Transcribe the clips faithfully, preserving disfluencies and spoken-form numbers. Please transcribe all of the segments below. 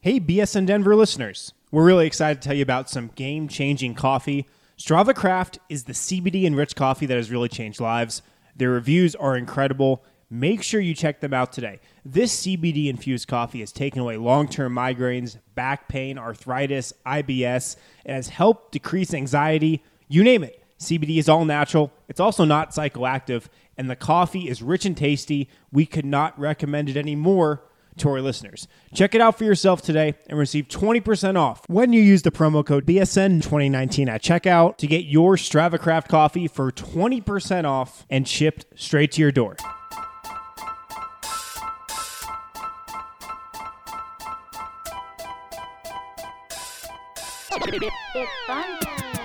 Hey, B S N Denver listeners. We're really excited to tell you about some game-changing coffee. Strava Craft is the C B D-enriched coffee that has really changed lives. Their reviews are incredible. Make sure you check them out today. This C B D-infused coffee has taken away long-term migraines, back pain, arthritis, I B S. It has helped decrease anxiety. You name it. C B D is all natural. It's also not psychoactive. And the coffee is rich and tasty. We could not recommend it anymore to our listeners. Check it out for yourself today and receive twenty percent off when you use the promo code B S N twenty nineteen at checkout to get your Strava Craft coffee for twenty percent off and shipped straight to your door. It's fun.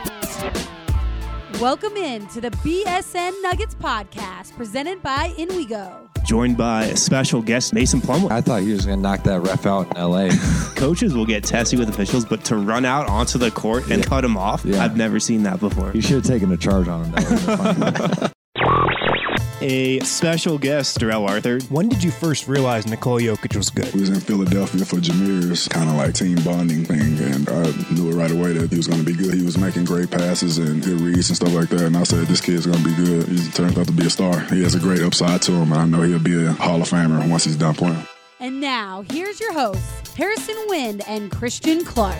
Welcome in to the B S N Nuggets podcast presented by InWeGo. Joined by a special guest, Mason Plumlee. I thought he was going to knock that ref out in L A. Coaches will get testy with officials, but to run out onto the court and yeah. cut him off, yeah. I've never seen that before. You should have taken a charge on him. That A special guest, Darrell Arthur. When did you first realize Nikola Jokic was good? We was in Philadelphia for Jameer's kind of like team bonding thing, and I knew it right away that he was going to be good. He was making great passes and good reads and stuff like that, and I said, this kid's going to be good. He turns out to be a star. He has a great upside to him, and I know he'll be a Hall of Famer once he's done playing. And now, here's your hosts, Harrison Wind and Christian Clark.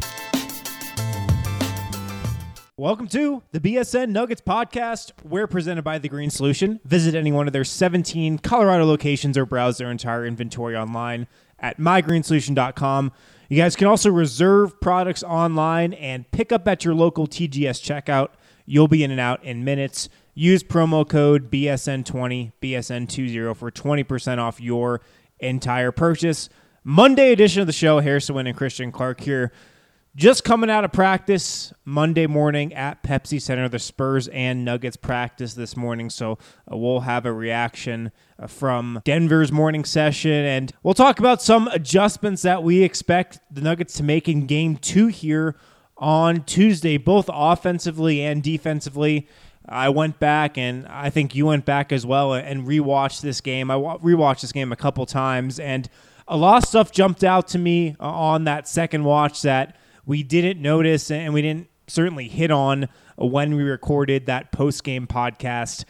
Welcome to the B S N Nuggets podcast. We're presented by The Green Solution. Visit any one of their seventeen Colorado locations or browse their entire inventory online at my green solution dot com. You guys can also reserve products online and pick up at your local T G S checkout. You'll be in and out in minutes. Use promo code B S N twenty, B S N twenty for twenty percent off your entire purchase. Monday edition of the show, Harrison Wind and Christian Clark here. Just coming out of practice Monday morning at Pepsi Center. The Spurs and Nuggets practice this morning, so uh, we'll have a reaction uh, from Denver's morning session, and we'll talk about some adjustments that we expect the Nuggets to make in Game two here on Tuesday, both offensively and defensively. I went back, and I think you went back as well, and rewatched this game. I rewatched this game a couple times, and a lot of stuff jumped out to me on that second watch that we didn't notice, and we didn't certainly hit on when we recorded that post-game podcast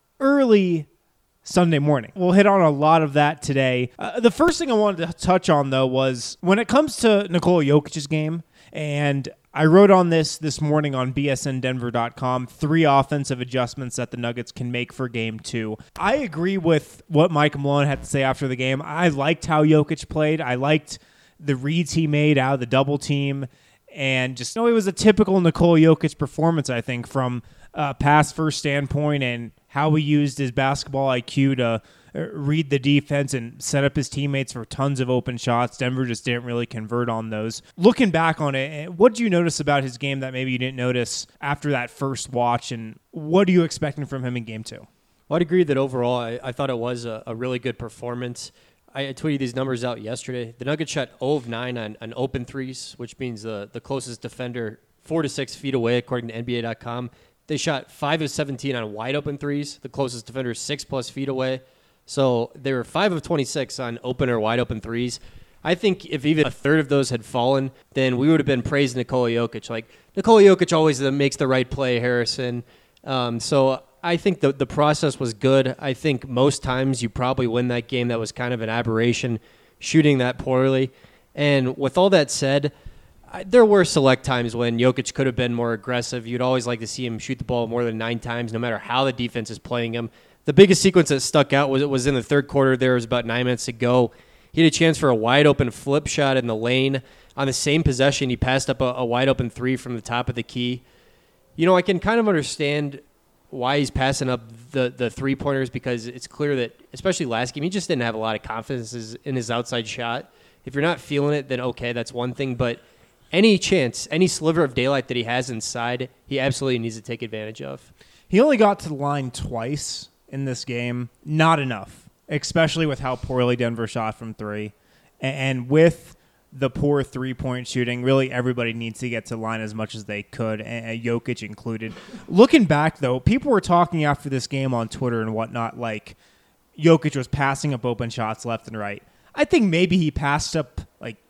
early Sunday morning. We'll hit on a lot of that today. Uh, the first thing I wanted to touch on, though, was when it comes to Nikola Jokic's game, and I wrote on this this morning on B S N Denver dot com, three offensive adjustments that the Nuggets can make for Game two. I agree with what Mike Malone had to say after the game. I liked how Jokic played. I liked the reads he made out of the double team. And just, you know, it was a typical Nikola Jokic performance, I think, from a pass-first standpoint and how he used his basketball I Q to read the defense and set up his teammates for tons of open shots. Denver just didn't really convert on those. Looking back on it, what did you notice about his game that maybe you didn't notice after that first watch, and what are you expecting from him in Game two? Well, I'd agree that overall I, I thought it was a, a really good performance. I tweeted these numbers out yesterday. The Nuggets shot zero of nine on, on open threes, which means the, the closest defender four to six feet away, according to N B A dot com. They shot five of seventeen on wide open threes. The closest defender is six plus feet away. So they were five of twenty-six on open or wide open threes. I think if even a third of those had fallen, then we would have been praising Nikola Jokic. Like, Nikola Jokic always makes the right play, Harrison. Um, so I think the the process was good. I think most times you probably win that game. That was kind of an aberration, shooting that poorly. And with all that said, I, there were select times when Jokic could have been more aggressive. You'd always like to see him shoot the ball more than nine times, no matter how the defense is playing him. The biggest sequence that stuck out was it was in the third quarter. There was about nine minutes to go. He had a chance for a wide open flip shot in the lane. On the same possession, he passed up a, a wide open three from the top of the key. You know, I can kind of understand why he's passing up the, the three-pointers, because it's clear that, especially last game, he just didn't have a lot of confidence in his outside shot. If you're not feeling it, then okay, that's one thing. But any chance, any sliver of daylight that he has inside, he absolutely needs to take advantage of. He only got to the line twice in this game. Not enough, especially with how poorly Denver shot from three. And with the poor three-point shooting, really everybody needs to get to the line as much as they could, and Jokic included. Looking back, though, people were talking after this game on Twitter and whatnot, like Jokic was passing up open shots left and right. I think maybe he passed up like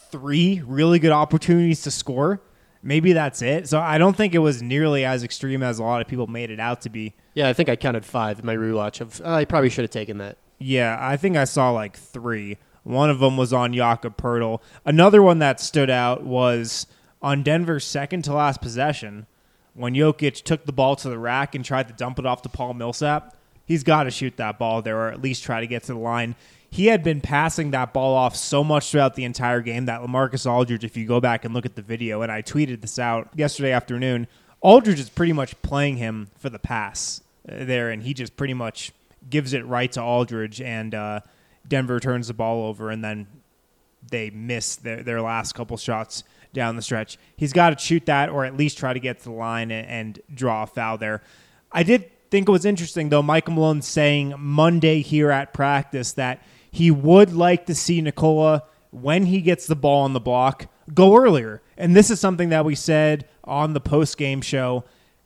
three really good opportunities to score. Maybe that's it. So I don't think it was nearly as extreme as a lot of people made it out to be. Yeah, I think I counted five in my rewatch. Of uh, I probably should have taken that. Yeah, I think I saw like three. One of them was on Jakob Poeltl. Another one that stood out was on Denver's second to last possession when Jokic took the ball to the rack and tried to dump it off to Paul Millsap. He's got to shoot that ball there or at least try to get to the line. He had been passing that ball off so much throughout the entire game that LaMarcus Aldridge, if you go back and look at the video, and I tweeted this out yesterday afternoon, Aldridge is pretty much playing him for the pass there, and he just pretty much gives it right to Aldridge, and uh, Denver turns the ball over, and then they miss their, their last couple shots down the stretch. He's got to shoot that or at least try to get to the line and, and draw a foul there. I did think it was interesting, though, Michael Malone saying Monday here at practice that he would like to see Nikola, when he gets the ball on the block, go earlier. And this is something that we said on the post-game show.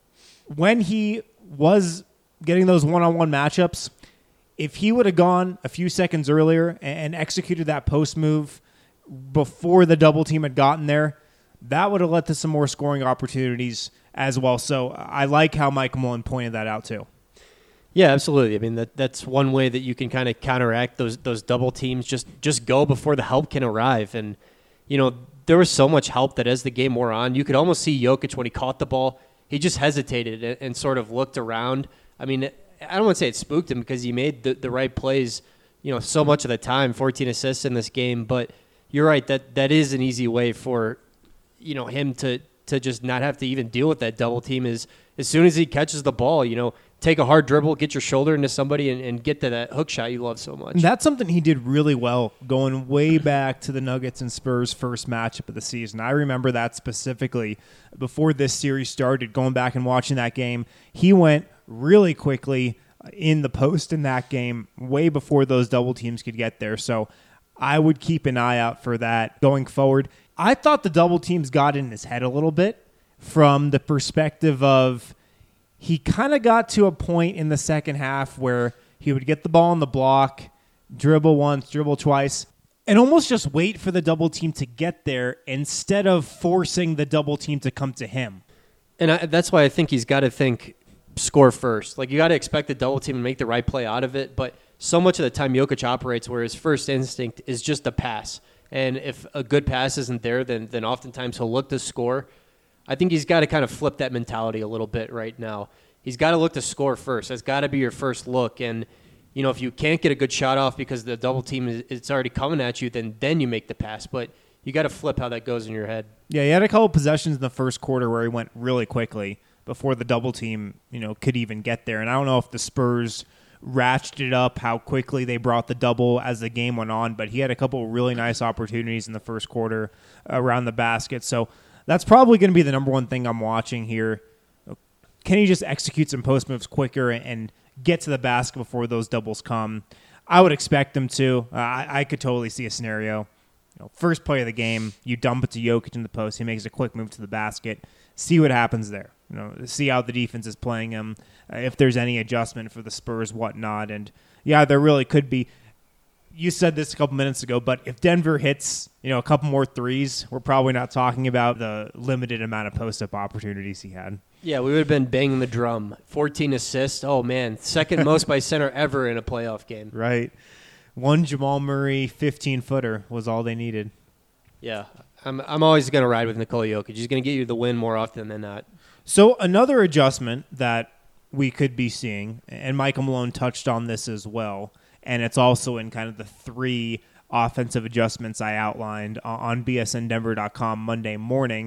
When he was getting those one-on-one matchups, if he would have gone a few seconds earlier and executed that post move before the double team had gotten there, that would have led to some more scoring opportunities as well. So I like how Mike Malone pointed that out too. Yeah, absolutely. I mean, that that's one way that you can kind of counteract those those double teams. Just just go before the help can arrive. And, you know, there was so much help that as the game wore on, you could almost see Jokic when he caught the ball, he just hesitated and, and sort of looked around. I mean, I don't want to say it spooked him because he made the, the right plays, you know, so much of the time, fourteen assists in this game. But you're right, that that is an easy way for, you know, him to, to just not have to even deal with that double team is as soon as he catches the ball, you know, take a hard dribble, get your shoulder into somebody, and, and get to that hook shot you love so much. And that's something he did really well going way back to the Nuggets and Spurs first matchup of the season. I remember that specifically before this series started, going back and watching that game. He went really quickly in the post in that game way before those double teams could get there. So I would keep an eye out for that going forward. I thought the double teams got in his head a little bit from the perspective of he kind of got to a point in the second half where he would get the ball on the block, dribble once, dribble twice, and almost just wait for the double team to get there instead of forcing the double team to come to him. And I, that's why I think he's got to think score first. Like, you got to expect the double team and make the right play out of it. But so much of the time Jokic operates where his first instinct is just a pass. And if a good pass isn't there, then then oftentimes he'll look to score. I think he's got to kind of flip that mentality a little bit right now. He's got to look to score first. That's got to be your first look. And, you know, if you can't get a good shot off because the double team is it's already coming at you, then then you make the pass. But you got to flip how that goes in your head. Yeah, he had a couple possessions in the first quarter where he went really quickly before the double team, you know, could even get there. And I don't know if the Spurs ratcheted up how quickly they brought the double as the game went on, but he had a couple really nice opportunities in the first quarter around the basket. So that's probably going to be the number one thing I'm watching here. Can he just execute some post moves quicker and get to the basket before those doubles come? I would expect him to. Uh, I, I could totally see a scenario. You know, first play of the game, you dump it to Jokic in the post. He makes a quick move to the basket. See what happens there. You know, see how the defense is playing him. Uh, if there's any adjustment for the Spurs, whatnot. And yeah, there really could be. You said this a couple minutes ago, but if Denver hits, you know, a couple more threes, we're probably not talking about the limited amount of post-up opportunities he had. Yeah, we would have been banging the drum. fourteen assists. Oh, man. Second most by center ever in a playoff game. Right. One Jamal Murray fifteen-footer was all they needed. Yeah. I'm I'm always going to ride with Nikola Jokic. He's going to get you the win more often than not. So another adjustment that we could be seeing, and Michael Malone touched on this as well, and it's also in kind of the three offensive adjustments I outlined on B S N Denver dot com Monday morning,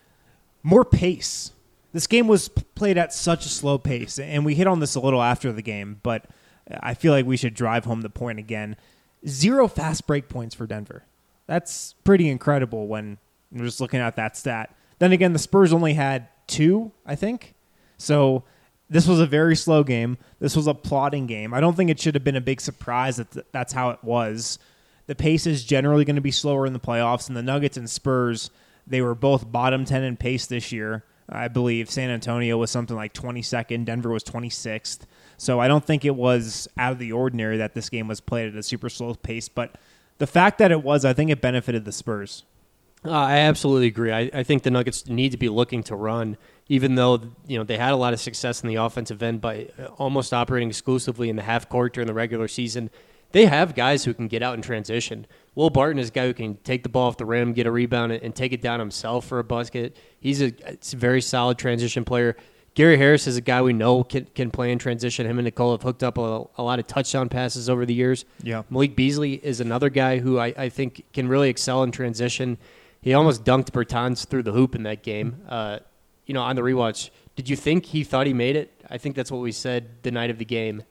more pace. This game was played at such a slow pace, and we hit on this a little after the game, but I feel like we should drive home the point again. Zero fast break points for Denver. That's pretty incredible when you're just looking at that stat. Then again, the Spurs only had two, I think. So this was a very slow game. This was a plodding game. I don't think it should have been a big surprise that that's how it was. The pace is generally going to be slower in the playoffs, and the Nuggets and Spurs, they were both bottom ten in pace this year. I believe San Antonio was something like twenty-second. Denver was twenty-sixth. So I don't think it was out of the ordinary that this game was played at a super slow pace. But the fact that it was, I think it benefited the Spurs. Uh, I absolutely agree. I, I think the Nuggets need to be looking to run, even though you know they had a lot of success in the offensive end by almost operating exclusively in the half court during the regular season. They have guys who can get out in transition. Will Barton is a guy who can take the ball off the rim, get a rebound, and take it down himself for a basket. He's a, it's a very solid transition player. Gary Harris is a guy we know can, can play in transition. Him and Nicole have hooked up a, a lot of touchdown passes over the years. Yeah. Malik Beasley is another guy who I, I think can really excel in transition. He almost dunked Bertans through the hoop in that game. Uh, you know, on the rewatch, did you think he thought he made it? I think that's what we said the night of the game.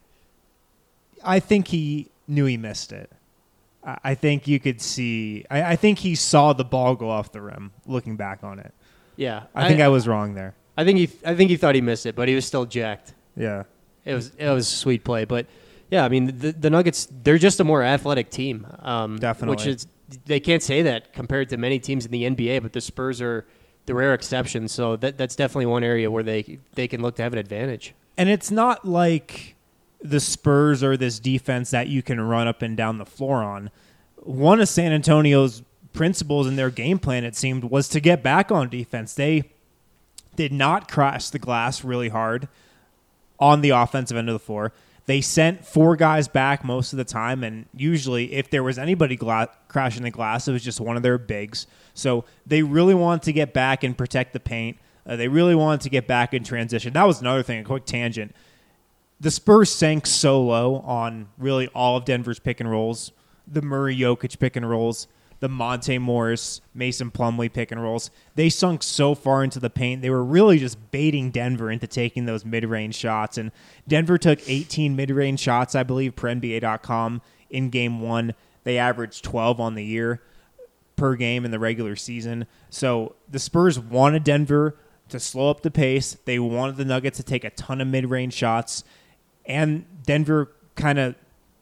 I think he knew he missed it. I I think you could see. I, I think he saw the ball go off the rim. Looking back on it, Yeah, I, I think I was wrong there. I think he, I think he thought he missed it, but he was still jacked. Yeah, It was, it was a sweet play, but yeah, I mean, the, the Nuggets, they're just a more athletic team. Um, Definitely. Which is, they can't say that compared to many teams in the N B A, but the Spurs are the rare exception. So that that's definitely one area where they they can look to have an advantage. and it's not like the Spurs are this defense that you can run up and down the floor on. One of San Antonio's principles in their game plan, it seemed, was to get back on defense. They did not crash the glass really hard on the offensive end of the floor. They sent four guys back most of the time, and usually if there was anybody gla- crashing the glass, it was just one of their bigs. So they really wanted to get back and protect the paint. Uh, they really wanted to get back in transition. That was another thing, a quick tangent. The Spurs sank so low on really all of Denver's pick and rolls, the Murray-Jokic pick and rolls, the Monte Morris, Mason Plumlee pick and rolls. They sunk so far into the paint. They were really just baiting Denver into taking those mid-range shots. And Denver took eighteen mid-range shots, I believe, per N B A dot com in game one. They averaged twelve on the year per game in the regular season. So the Spurs wanted Denver to slow up the pace. They wanted the Nuggets to take a ton of mid-range shots. And Denver kind of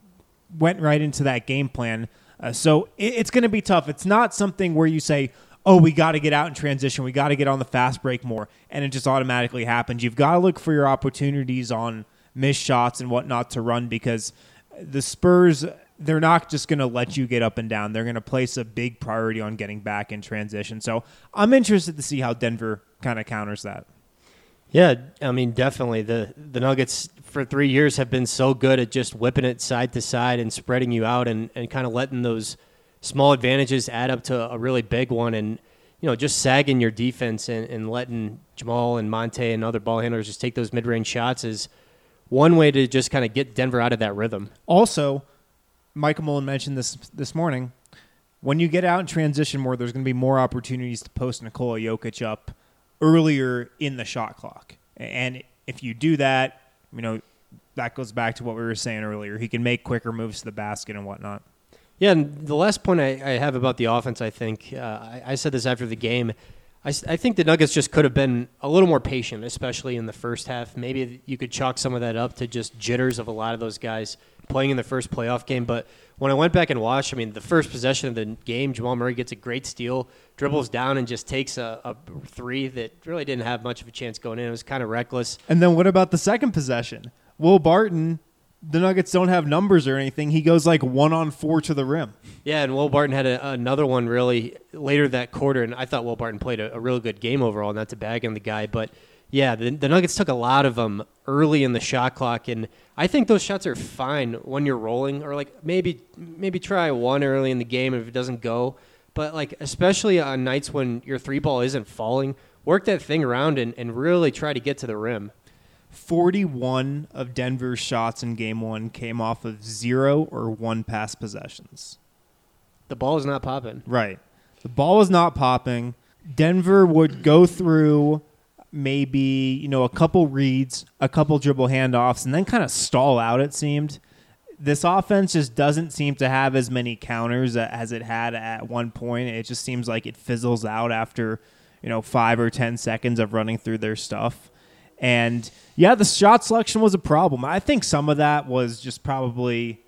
went right into that game plan. Uh, so it, it's going to be tough. It's not something where you say, oh, we got to get out in transition. We got to get on the fast break more. And it just automatically happens. You've got to look for your opportunities on missed shots and whatnot to run, because the Spurs, they're not just going to let you get up and down. They're going to place a big priority on getting back in transition. So I'm interested to see how Denver kind of counters that. Yeah, I mean, definitely. The the Nuggets for three years have been so good at just whipping it side to side and spreading you out and, and kind of letting those small advantages add up to a really big one, and, you know, just sagging your defense and, and letting Jamal and Monte and other ball handlers just take those mid-range shots is one way to just kind of get Denver out of that rhythm. Also, Michael Mullen mentioned this this morning, when you get out in transition more, there's going to be more opportunities to post Nikola Jokic up earlier in the shot clock. And if you do that, you know, that goes back to what we were saying earlier. He can make quicker moves to the basket and whatnot. Yeah, and the last point I, I have about the offense, I think, uh, I, I said this after the game, I, I think the Nuggets just could have been a little more patient, especially in the first half. Maybe you could chalk some of that up to just jitters of a lot of those guys playing in the first playoff game. But when I went back and watched, I mean, the first possession of the game, Jamal Murray gets a great steal, dribbles down and just takes a, a three that really didn't have much of a chance going in. It was kind of reckless. And then what about the second possession? Will Barton, the Nuggets don't have numbers or anything. He goes like one on four to the rim. Yeah, and Will Barton had a, another one really later that quarter, and I thought Will Barton played a, a really good game overall, not to bag on the guy. But, yeah, the, the Nuggets took a lot of them early in the shot clock, and I think those shots are fine when you're rolling, or like maybe maybe try one early in the game if it doesn't go. But, like, especially on nights when your three ball isn't falling, work that thing around and, and really try to get to the rim. forty-one of Denver's shots in game one came off of zero or one pass possessions. The ball is not popping. Right. The ball was not popping. Denver would go through maybe, you know, a couple reads, a couple dribble handoffs, and then kind of stall out, it seemed. This offense just doesn't seem to have as many counters as it had at one point. It just seems like it fizzles out after, you know, five or ten seconds of running through their stuff. And, yeah, the shot selection was a problem. I think some of that was just probably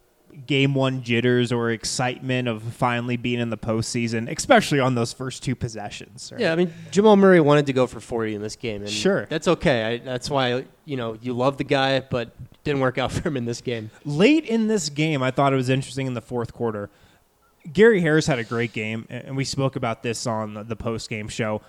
game one jitters or excitement of finally being in the postseason, especially on those first two possessions. Right? Yeah, I mean, Jamal Murray wanted to go for forty in this game. And Sure. That's okay. I, that's why, you know, you love the guy, but didn't work out for him in this game. Late in this game, I thought it was interesting in the fourth quarter. Gary Harris had a great game, and we spoke about this on the post-game show.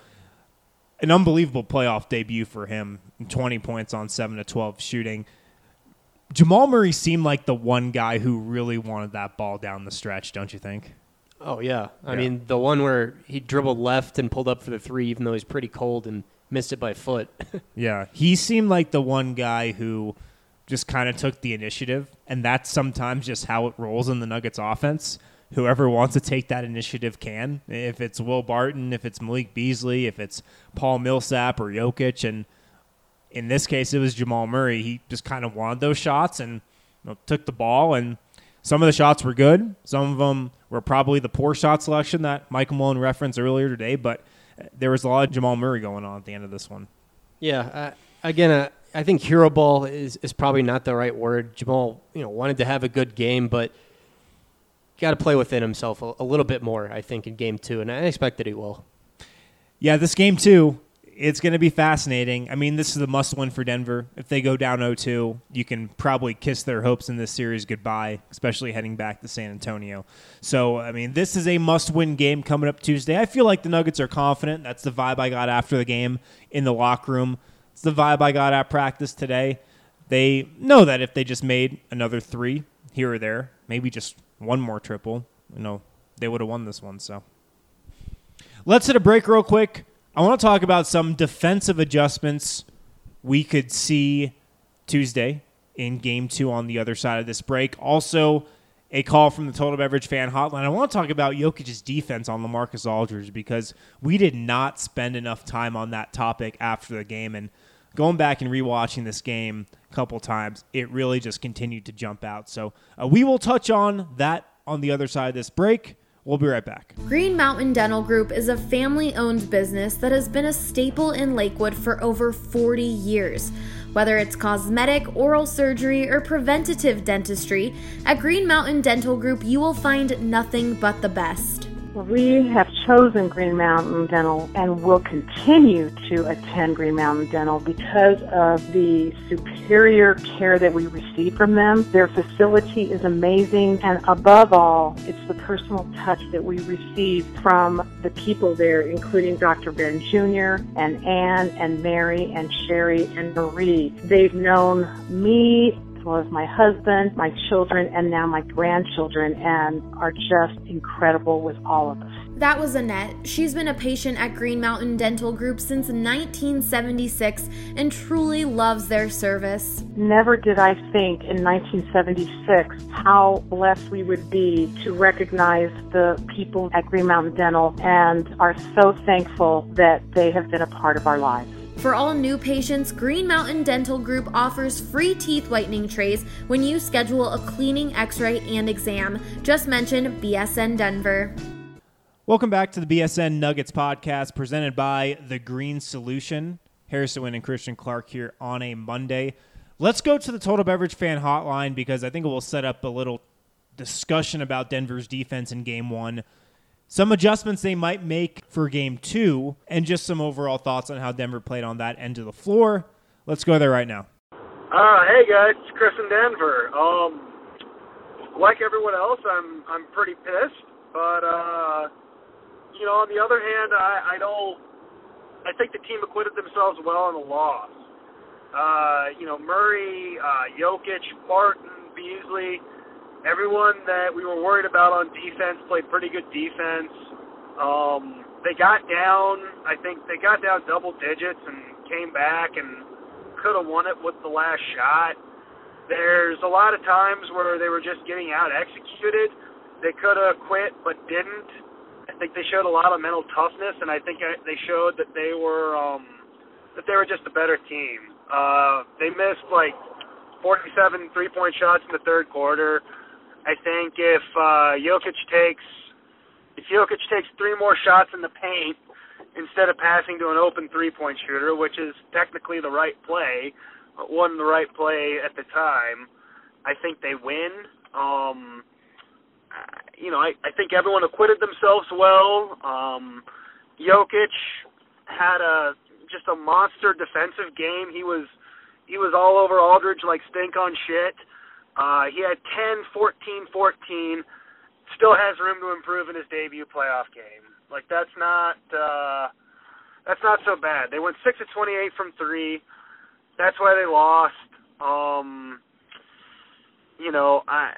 An unbelievable playoff debut for him, twenty points on seven to twelve shooting. Jamal Murray seemed like the one guy who really wanted that ball down the stretch, don't you think? Oh, yeah. I Yeah. mean, the one where he dribbled left and pulled up for the three, even though he's pretty cold, and missed it by a foot. Yeah, he seemed like the one guy who just kind of took the initiative, and that's sometimes just how it rolls in the Nuggets offense. Whoever wants to take that initiative can. If it's Will Barton, if it's Malik Beasley, if it's Paul Millsap or Jokic, and in this case it was Jamal Murray, he just kind of wanted those shots and you know, took the ball, and some of the shots were good. Some of them were probably the poor shot selection that Michael Malone referenced earlier today, but there was a lot of Jamal Murray going on at the end of this one. Yeah, uh, again, uh, I think hero ball is, is probably not the right word. Jamal, you know, wanted to have a good game, but got to play within himself a, a little bit more, I think, in game two, and I expect that he will. Yeah, this game two, it's going to be fascinating. I mean, this is a must-win for Denver. If they go down oh two, you can probably kiss their hopes in this series goodbye, especially heading back to San Antonio. So, I mean, this is a must-win game coming up Tuesday. I feel like the Nuggets are confident. That's the vibe I got after the game in the locker room. It's the vibe I got at practice today. They know that if they just made another three here or there, maybe just one more triple, you know, they would have won this one. So let's hit a break real quick. I want to talk about some defensive adjustments we could see Tuesday in game two on the other side of this break. Also, a call from the Total Beverage Fan Hotline. I want to talk about Jokic's defense on LaMarcus Aldridge because we did not spend enough time on that topic after the game. And going back and rewatching this game a couple times, it really just continued to jump out. So uh, we will touch on that on the other side of this break. We'll be right back. Green Mountain Dental Group is a family-owned business that has been a staple in Lakewood for over forty years. Whether it's cosmetic, oral surgery, or preventative dentistry, at Green Mountain Dental Group you will find nothing but the best. We have chosen Green Mountain Dental and will continue to attend Green Mountain Dental because of the superior care that we receive from them. Their facility is amazing, and above all, it's the personal touch that we receive from the people there, including Doctor Ben Junior and Ann and Mary and Sherry and Marie. They've known me as well as my husband, my children, and now my grandchildren, and are just incredible with all of us. That was Annette. She's been a patient at Green Mountain Dental Group since nineteen seventy-six and truly loves their service. Never did I think in nineteen seventy-six how blessed we would be to recognize the people at Green Mountain Dental, and are so thankful that they have been a part of our lives. For all new patients, Green Mountain Dental Group offers free teeth whitening trays when you schedule a cleaning, x-ray, and exam. Just mention B S N Denver. Welcome back to the B S N Nuggets podcast presented by The Green Solution. Harrison Wind and Christian Clark here on a Monday. Let's go to the Total Beverage Fan Hotline because I think it will set up a little discussion about Denver's defense in game one, some adjustments they might make for game two, and just some overall thoughts on how Denver played on that end of the floor. Let's go there right now. Uh, hey guys, it's Chris in Denver. Um, like everyone else, I'm I'm pretty pissed, but uh, you know, on the other hand, I, I don't. I think the team acquitted themselves well in the loss. Uh, you know, Murray, uh, Jokic, Barton, Beasley. Everyone that we were worried about on defense played pretty good defense. Um, they got down, I think they got down double digits and came back and could have won it with the last shot. There's a lot of times where they were just getting out executed. They could have quit but didn't. I think they showed a lot of mental toughness, and I think they showed that they were um, that they were just a better team. Uh, they missed like forty-seven three-point shots in the third quarter. I think if uh, Jokic takes if Jokic takes three more shots in the paint instead of passing to an open three-point shooter, which is technically the right play, but wasn't the right play at the time, I think they win. Um, you know, I, I think everyone acquitted themselves well. Um, Jokic had a just a monster defensive game. He was he was all over Aldridge like stink on shit. Uh, he had ten, fourteen, fourteen, still has room to improve in his debut playoff game. Like, that's not uh, that's not so bad. They went six of twenty-eight from three. That's why they lost. Um, you know, I,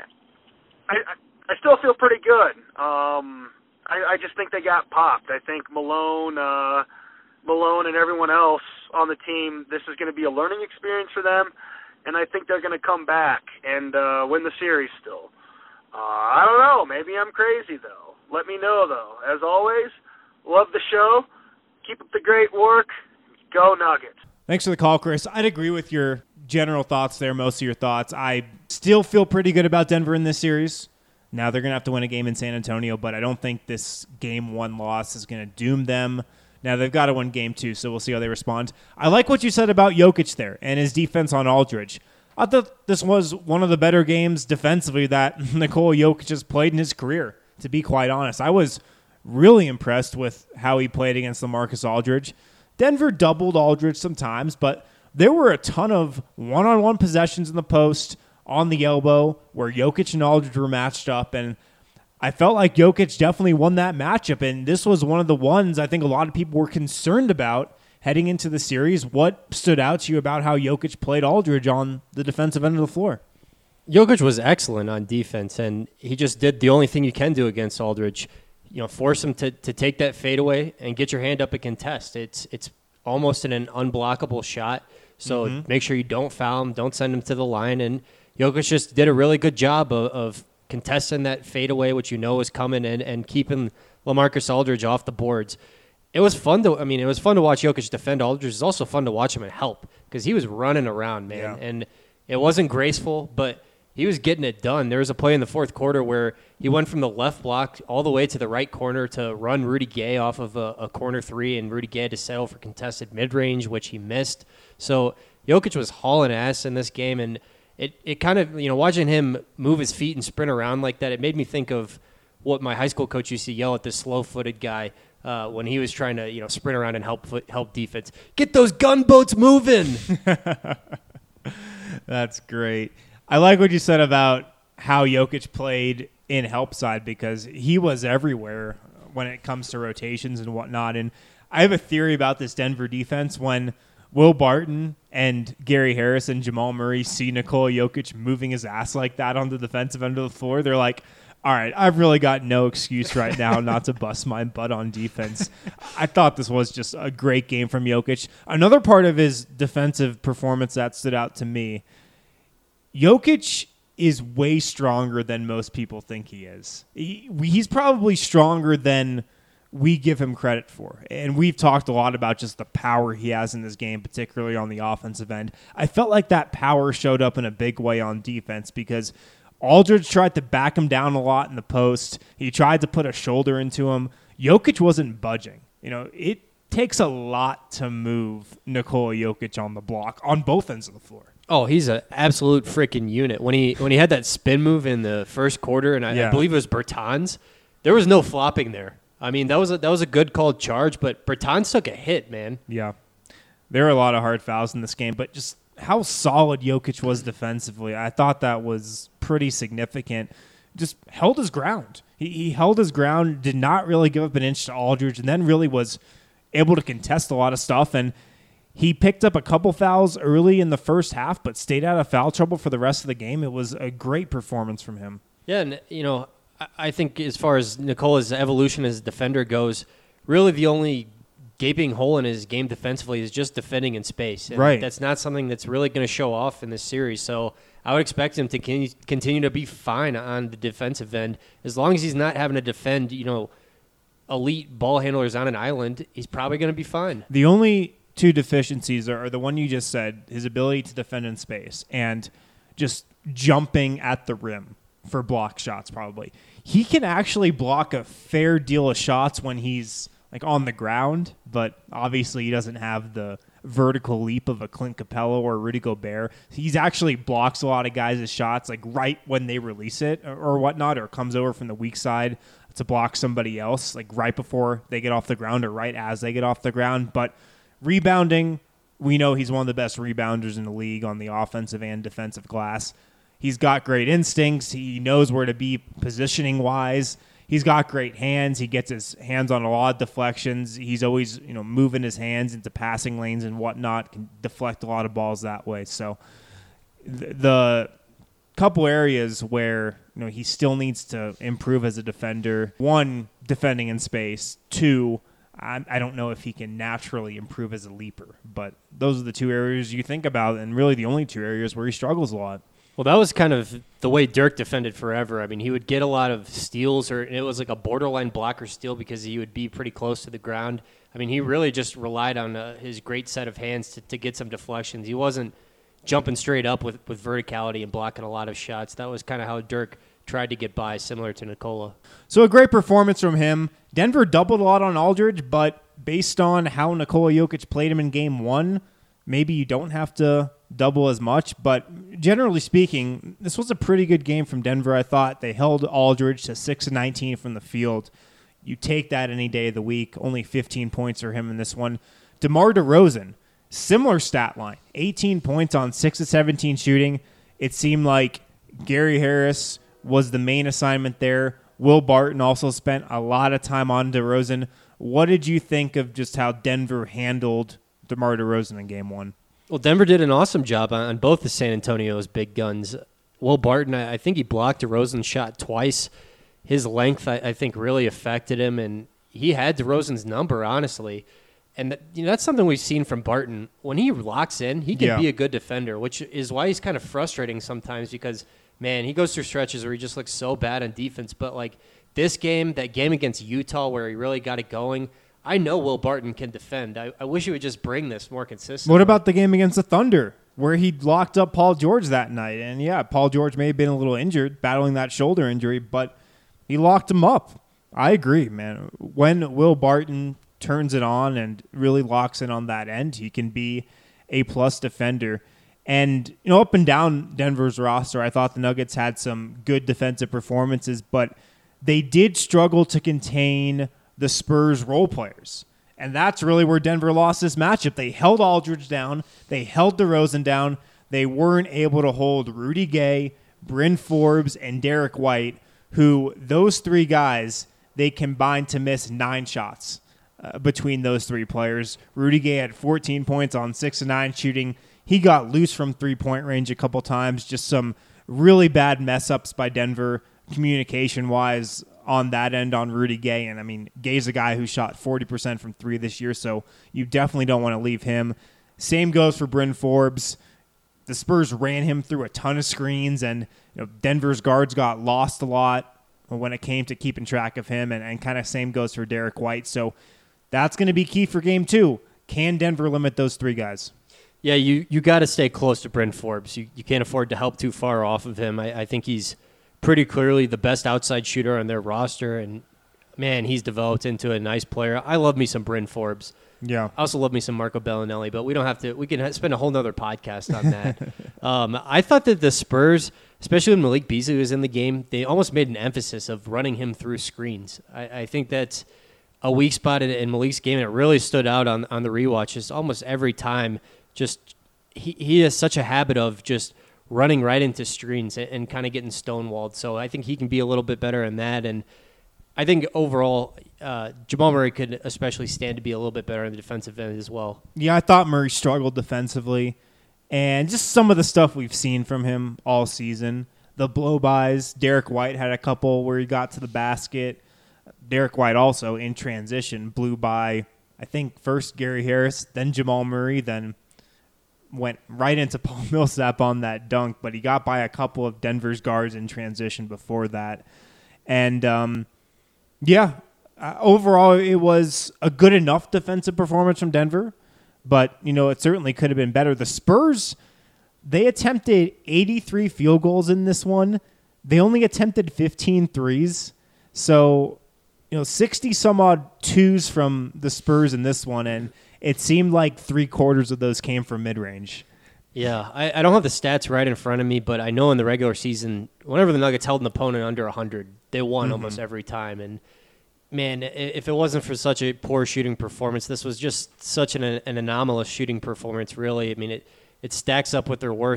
I I still feel pretty good. Um, I, I just think they got popped. I think Malone, uh, Malone, and everyone else on the team, this is going to be a learning experience for them, and I think they're going to come back and uh, win the series still. Uh, I don't know. Maybe I'm crazy, though. Let me know, though. As always, love the show. Keep up the great work. Go Nuggets. Thanks for the call, Chris. I'd agree with your general thoughts there, most of your thoughts. I still feel pretty good about Denver in this series. Now they're going to have to win a game in San Antonio, but I don't think this game one loss is going to doom them. Now they've got to win game two, so we'll see how they respond. I like what you said about Jokic there and his defense on Aldridge. I thought this was one of the better games defensively that Nikola Jokic has played in his career, to be quite honest. I was really impressed with how he played against LaMarcus Aldridge. Denver doubled Aldridge sometimes, but there were a ton of one-on-one possessions in the post, on the elbow, where Jokic and Aldridge were matched up, and I felt like Jokic definitely won that matchup, and this was one of the ones I think a lot of people were concerned about heading into the series. What stood out to you about how Jokic played Aldridge on the defensive end of the floor? Jokic was excellent on defense, and he just did the only thing you can do against Aldridge. You know, force him to, to take that fadeaway and get your hand up and contest. It's it's almost an, an unblockable shot, so mm-hmm. make sure you don't foul him, don't send him to the line, and Jokic just did a really good job of, of contesting that fadeaway, which you know is coming, and, and keeping LaMarcus Aldridge off the boards. It was fun to, I mean, it was fun to watch Jokic defend Aldridge. It's also fun to watch him and help because he was running around, man. Yeah. And it wasn't graceful, but he was getting it done. There was a play in the fourth quarter where he went from the left block all the way to the right corner to run Rudy Gay off of a, a corner three, and Rudy Gay had to settle for contested mid-range, which he missed. So Jokic was hauling ass in this game, and it, it kind of, you know, watching him move his feet and sprint around like that, it made me think of what my high school coach used to yell at this slow-footed guy Uh, when he was trying to, you know, sprint around and help help defense. Get those gunboats moving. That's great. I like what you said about how Jokic played in help side because he was everywhere when it comes to rotations and whatnot. And I have a theory about this Denver defense. When Will Barton and Gary Harris and Jamal Murray see Nikola Jokic moving his ass like that on the defensive end of the floor, they're like, all right, I've really got no excuse right now not to bust my butt on defense. I thought this was just a great game from Jokic. Another part of his defensive performance that stood out to me, Jokic is way stronger than most people think he is. He, he's probably stronger than we give him credit for. And we've talked a lot about just the power he has in this game, particularly on the offensive end. I felt like that power showed up in a big way on defense because Aldridge tried to back him down a lot in the post. He tried to put a shoulder into him. Jokic wasn't budging. You know, it takes a lot to move Nikola Jokic on the block on both ends of the floor. Oh, he's an absolute freaking unit. When he when he had that spin move in the first quarter, and I, yeah. I believe it was Bertans, there was no flopping there. I mean, that was a, that was a good called charge, but Bertans took a hit, man. Yeah. There were a lot of hard fouls in this game, but just how solid Jokic was defensively, I thought that was pretty significant. Just held his ground. He, he held his ground, did not really give up an inch to Aldridge, and then really was able to contest a lot of stuff. And he picked up a couple fouls early in the first half, but stayed out of foul trouble for the rest of the game. It was a great performance from him. Yeah, and, you know, I, I think as far as Nikola's evolution as a defender goes, really the only gaping hole in his game defensively is just defending in space. And right. That's not something that's really going to show off in this series. So I would expect him to continue to be fine on the defensive end. As long as he's not having to defend, you know, elite ball handlers on an island, he's probably going to be fine. The only two deficiencies are, are the one you just said, his ability to defend in space and just jumping at the rim for block shots probably. He can actually block a fair deal of shots when he's like on the ground, but obviously he doesn't have the vertical leap of a Clint Capella or Rudy Gobert. He's actually blocks a lot of guys' shots like right when they release it or, or whatnot, or comes over from the weak side to block somebody else, like right before they get off the ground or right as they get off the ground. But rebounding, we know he's one of the best rebounders in the league on the offensive and defensive glass. He's got great instincts. He knows where to be positioning-wise. He's got great hands. He gets his hands on a lot of deflections. He's always, you know, moving his hands into passing lanes and whatnot, can deflect a lot of balls that way. So th- the couple areas where, you know, he still needs to improve as a defender. One, defending in space. Two, I, I don't know if he can naturally improve as a leaper. But those are the two areas you think about, and really the only two areas where he struggles a lot. Well, that was kind of the way Dirk defended forever. I mean, he would get a lot of steals, or it was like a borderline blocker steal because he would be pretty close to the ground. I mean, he really just relied on uh, his great set of hands to, to get some deflections. He wasn't jumping straight up with, with verticality and blocking a lot of shots. That was kind of how Dirk tried to get by, similar to Nikola. So a great performance from him. Denver doubled a lot on Aldridge, but based on how Nikola Jokic played him in game one, maybe you don't have to double as much, but generally speaking, this was a pretty good game from Denver. I thought they held Aldridge to six of nineteen from the field. You take that any day of the week. Only fifteen points for him in this one. DeMar DeRozan, similar stat line, eighteen points on six of seventeen shooting. It seemed like Gary Harris was the main assignment there. Will Barton also spent a lot of time on DeRozan. What did you think of just how Denver handled DeMar DeRozan in game one? Well, Denver did an awesome job on both the San Antonio's big guns. Will Barton, I think he blocked DeRozan's shot twice. His length, I, I think, really affected him, and he had DeRozan's number, honestly. And that, you know, that's something we've seen from Barton. When he locks in, he can Yeah. be a good defender, which is why he's kind of frustrating sometimes because, man, he goes through stretches where he just looks so bad on defense. But, like, this game, that game against Utah where he really got it going, I know Will Barton can defend. I, I wish he would just bring this more consistently. What about the game against the Thunder where he locked up Paul George that night? And, yeah, Paul George may have been a little injured, battling that shoulder injury, but he locked him up. I agree, man. When Will Barton turns it on and really locks in on that end, he can be a plus defender. And, you know, up and down Denver's roster, I thought the Nuggets had some good defensive performances, but they did struggle to contain the Spurs role players. And that's really where Denver lost this matchup. They held Aldridge down. They held DeRozan down. They weren't able to hold Rudy Gay, Bryn Forbes, and Derek White, who those three guys, they combined to miss nine shots uh, between those three players. Rudy Gay had fourteen points on six of nine shooting. He got loose from three-point range a couple times. Just some really bad mess-ups by Denver communication-wise on that end on Rudy Gay. And, I mean, Gay's a guy who shot forty percent from three this year, so you definitely don't want to leave him. Same goes for Bryn Forbes. The Spurs ran him through a ton of screens, and you know, Denver's guards got lost a lot when it came to keeping track of him, and, and kind of same goes for Derek White. So that's going to be key for game two. Can Denver limit those three guys? Yeah, you, you got to stay close to Bryn Forbes. You, you can't afford to help too far off of him. I, I think he's pretty clearly the best outside shooter on their roster, and, man, he's developed into a nice player. I love me some Bryn Forbes. Yeah. I also love me some Marco Bellinelli, but we don't have to. We can spend a whole nother podcast on that. um, I thought that the Spurs, especially when Malik Beasley was in the game, they almost made an emphasis of running him through screens. I, I think that's a weak spot in, in Malik's game, and it really stood out on, on the rewatch. Just almost every time, just he, he has such a habit of just running right into screens and, and kind of getting stonewalled. So I think he can be a little bit better in that, and I think overall, uh, Jamal Murray could especially stand to be a little bit better on the defensive end as well. Yeah, I thought Murray struggled defensively. And just some of the stuff we've seen from him all season. The blow-bys. Derek White had a couple where he got to the basket. Derek White also, in transition, blew by, I think, first Gary Harris, then Jamal Murray, then went right into Paul Millsap on that dunk. But he got by a couple of Denver's guards in transition before that. And, um... Yeah, uh, overall it was a good enough defensive performance from Denver, but, you know, it certainly could have been better. The Spurs, they attempted eighty-three field goals in this one. They only attempted fifteen threes. So, you know, sixty-some-odd twos from the Spurs in this one, and it seemed like three-quarters of those came from mid-range. Yeah, I, I don't have the stats right in front of me, but I know in the regular season, whenever the Nuggets held an opponent under one hundred, they won mm-hmm. almost every time. And, man, if it wasn't for such a poor shooting performance, this was just such an, an anomalous shooting performance, really. I mean, it, it stacks up with their worst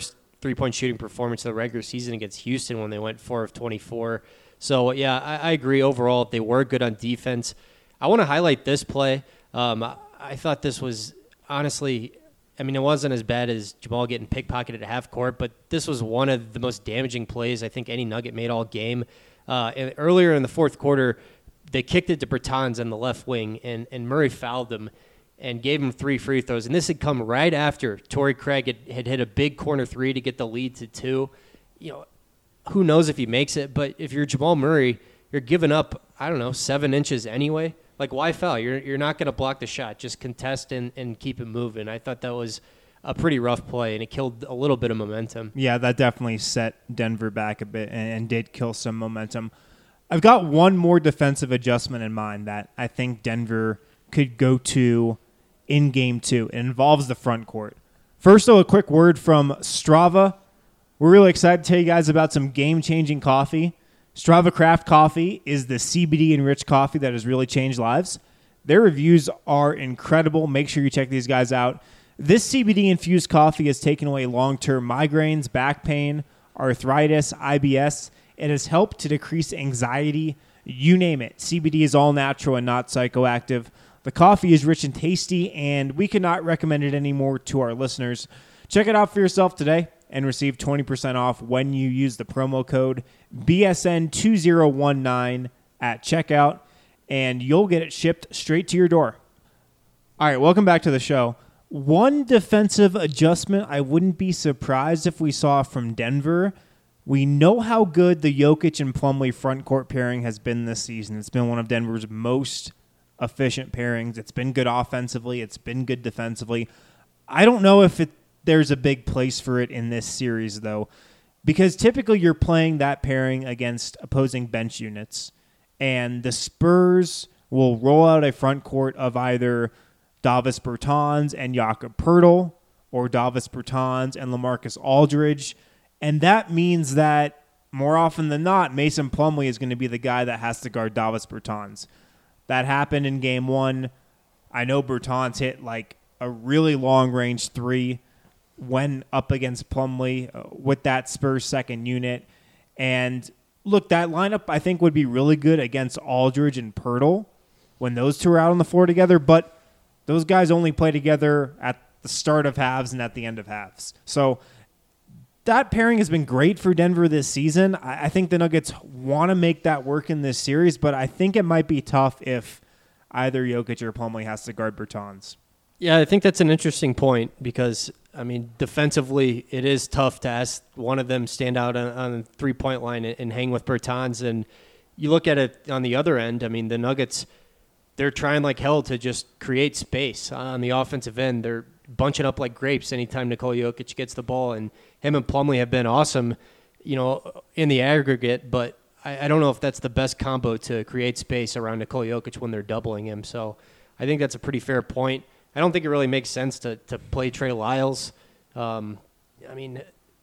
three-point shooting performance of the regular season against Houston when they went four of twenty-four. So, yeah, I, I agree overall. They were good on defense. I want to highlight this play. Um, I, I thought this was, honestly, I mean, it wasn't as bad as Jamal getting pickpocketed at half court, but this was one of the most damaging plays I think any Nugget made all game. Uh, and earlier in the fourth quarter, they kicked it to Bertans on the left wing, and, and Murray fouled him and gave him three free throws. And this had come right after Torrey Craig had, had hit a big corner three to get the lead to two. You know, who knows if he makes it, but if you're Jamal Murray, you're giving up, I don't know, seven inches anyway. Like, why foul? You're you're not going to block the shot. Just contest and, and keep it moving. I thought that was a pretty rough play, and it killed a little bit of momentum. Yeah, that definitely set Denver back a bit and, and did kill some momentum. I've got one more defensive adjustment in mind that I think Denver could go to in game two. It involves the front court. First, though, a quick word from Strava. We're really excited to tell you guys about some game-changing coffee. Strava Craft Coffee is the C B D-enriched coffee that has really changed lives. Their reviews are incredible. Make sure you check these guys out. This C B D-infused coffee has taken away long-term migraines, back pain, arthritis, I B S. It has helped to decrease anxiety. You name it. C B D is all natural and not psychoactive. The coffee is rich and tasty, and we cannot recommend it anymore to our listeners. Check it out for yourself today and receive twenty percent off when you use the promo code B S N two zero one nine at checkout, and you'll get it shipped straight to your door. All right, welcome back to the show. One defensive adjustment I wouldn't be surprised if we saw from Denver. We know how good the Jokic and Plumlee front court pairing has been this season. It's been one of Denver's most efficient pairings. It's been good offensively. It's been good defensively. I don't know if it there's a big place for it in this series, though, because typically you're playing that pairing against opposing bench units, and the Spurs will roll out a front court of either Davis Bertans and Jakob Poeltl or Davis Bertans and LaMarcus Aldridge, and that means that more often than not, Mason Plumlee is going to be the guy that has to guard Davis Bertans. That happened in game one. I know Bertans hit like a really long-range three when up against Plumlee uh, with that Spurs second unit. And look, that lineup I think would be really good against Aldridge and Poeltl when those two are out on the floor together, but those guys only play together at the start of halves and at the end of halves. So that pairing has been great for Denver this season. I, I think the Nuggets want to make that work in this series, but I think it might be tough if either Jokic or Plumlee has to guard Bertans. Yeah, I think that's an interesting point because, I mean, defensively, it is tough to ask one of them stand out on, on the three-point line and, and hang with Bertans. And you look at it on the other end, I mean, the Nuggets, they're trying like hell to just create space on the offensive end. They're bunching up like grapes anytime Nikola Jokic gets the ball, and him and Plumlee have been awesome, you know, in the aggregate, but I, I don't know if that's the best combo to create space around Nikola Jokic when they're doubling him. So I think that's a pretty fair point. I don't think it really makes sense to, to play Trey Lyles. Um, I mean,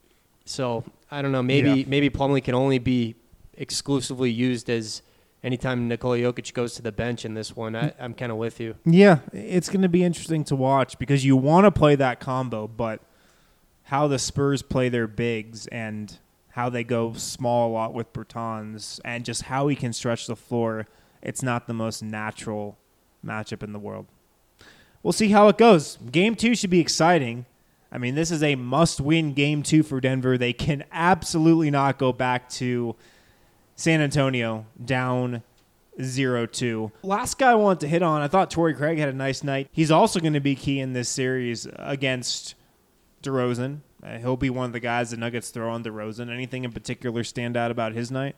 so I don't know. Maybe yeah. maybe Plumlee can only be exclusively used as anytime Nikola Jokic goes to the bench in this one. I, I'm kind of with you. Yeah, it's going to be interesting to watch because you want to play that combo, but how the Spurs play their bigs and how they go small a lot with Bertans and just how he can stretch the floor, it's not the most natural matchup in the world. We'll see how it goes. Game two should be exciting. I mean, this is a must-win game two for Denver. They can absolutely not go back to San Antonio down zero two. Last guy I wanted to hit on, I thought Torrey Craig had a nice night. He's also going to be key in this series against DeRozan. Uh, he'll be one of the guys the Nuggets throw on DeRozan. Anything in particular stand out about his night?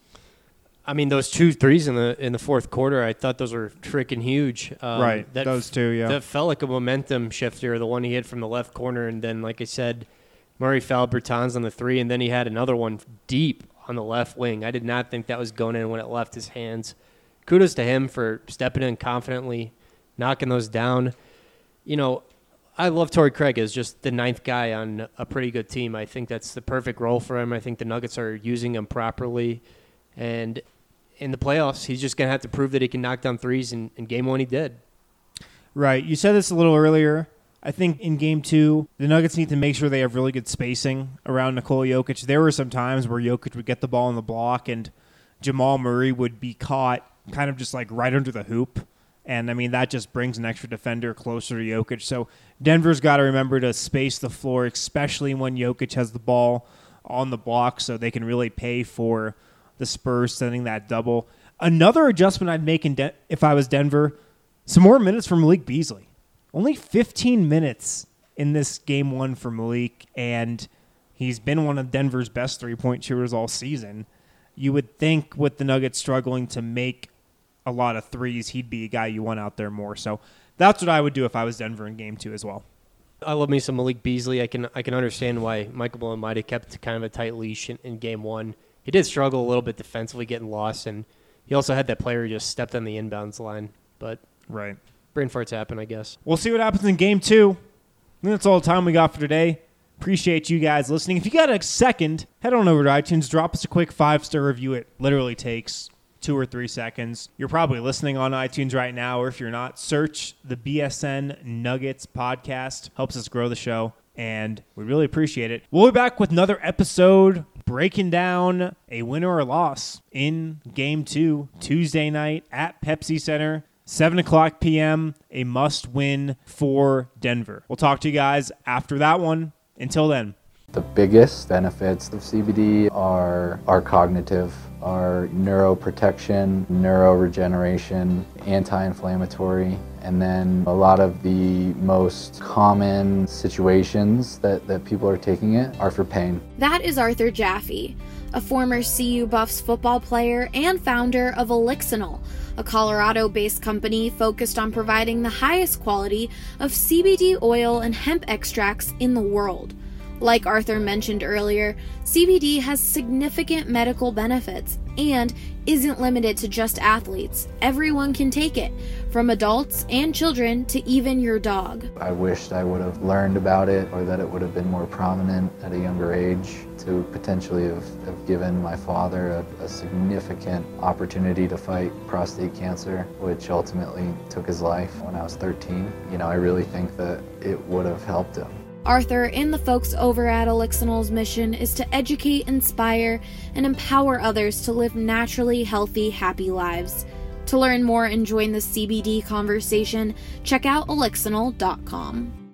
I mean, those two threes in the in the fourth quarter, I thought those were freaking huge. Um, right, that, those two, yeah. That felt like a momentum shifter, the one he hit from the left corner. And then, like I said, Murray fouled Bertans on the three, and then he had another one deep on the left wing. I did not think that was going in when it left his hands. Kudos to him for stepping in confidently, knocking those down. You know, I love Torrey Craig as just the ninth guy on a pretty good team. I think that's the perfect role for him. I think the Nuggets are using him properly. And in the playoffs, he's just going to have to prove that he can knock down threes, and in game one he did. Right. You said this a little earlier. I think in game two, the Nuggets need to make sure they have really good spacing around Nikola Jokic. There were some times where Jokic would get the ball on the block and Jamal Murray would be caught kind of just like right under the hoop. And, I mean, that just brings an extra defender closer to Jokic. So Denver's got to remember to space the floor, especially when Jokic has the ball on the block, so they can really pay for the Spurs sending that double. Another adjustment I'd make in De- if I was Denver, some more minutes for Malik Beasley. Only fifteen minutes in this game one for Malik, and he's been one of Denver's best three-point shooters all season. You would think with the Nuggets struggling to make a lot of threes, he'd be a guy you want out there more. So that's what I would do if I was Denver in game two as well. I love me some Malik Beasley. I can I can understand why Michael Malone might have kept kind of a tight leash in, in game one. He did struggle a little bit defensively, getting lost, and he also had that player who just stepped on the inbounds line. But right, brain farts happen, I guess. We'll see what happens in game two. I think that's all the time we got for today. Appreciate you guys listening. If you got a second, head on over to iTunes, drop us a quick five-star review. It literally takes two or three seconds. You're probably listening on iTunes right now, or if you're not, search the B S N Nuggets podcast. Helps us grow the show, and we really appreciate it. We'll be back with another episode breaking down a win or a loss in Game two, Tuesday night at Pepsi Center, seven o'clock p.m., a must-win for Denver. We'll talk to you guys after that one. Until then. The biggest benefits of C B D are, are cognitive, are neuroprotection, neuroregeneration, anti-inflammatory, and then a lot of the most common situations that, that people are taking it are for pain. That is Arthur Jaffe, a former C U Buffs football player and founder of Elixinol, a Colorado-based company focused on providing the highest quality of C B D oil and hemp extracts in the world. Like Arthur mentioned earlier, C B D has significant medical benefits and isn't limited to just athletes. Everyone can take it, from adults and children to even your dog. I wished I would have learned about it, or that it would have been more prominent at a younger age to potentially have, have given my father a, a significant opportunity to fight prostate cancer, which ultimately took his life when I was thirteen. You know, I really think that it would have helped him. Arthur and the folks over at Elixinol's mission is to educate, inspire, and empower others to live naturally healthy, happy lives. To learn more and join the C B D conversation, check out elixinol dot com.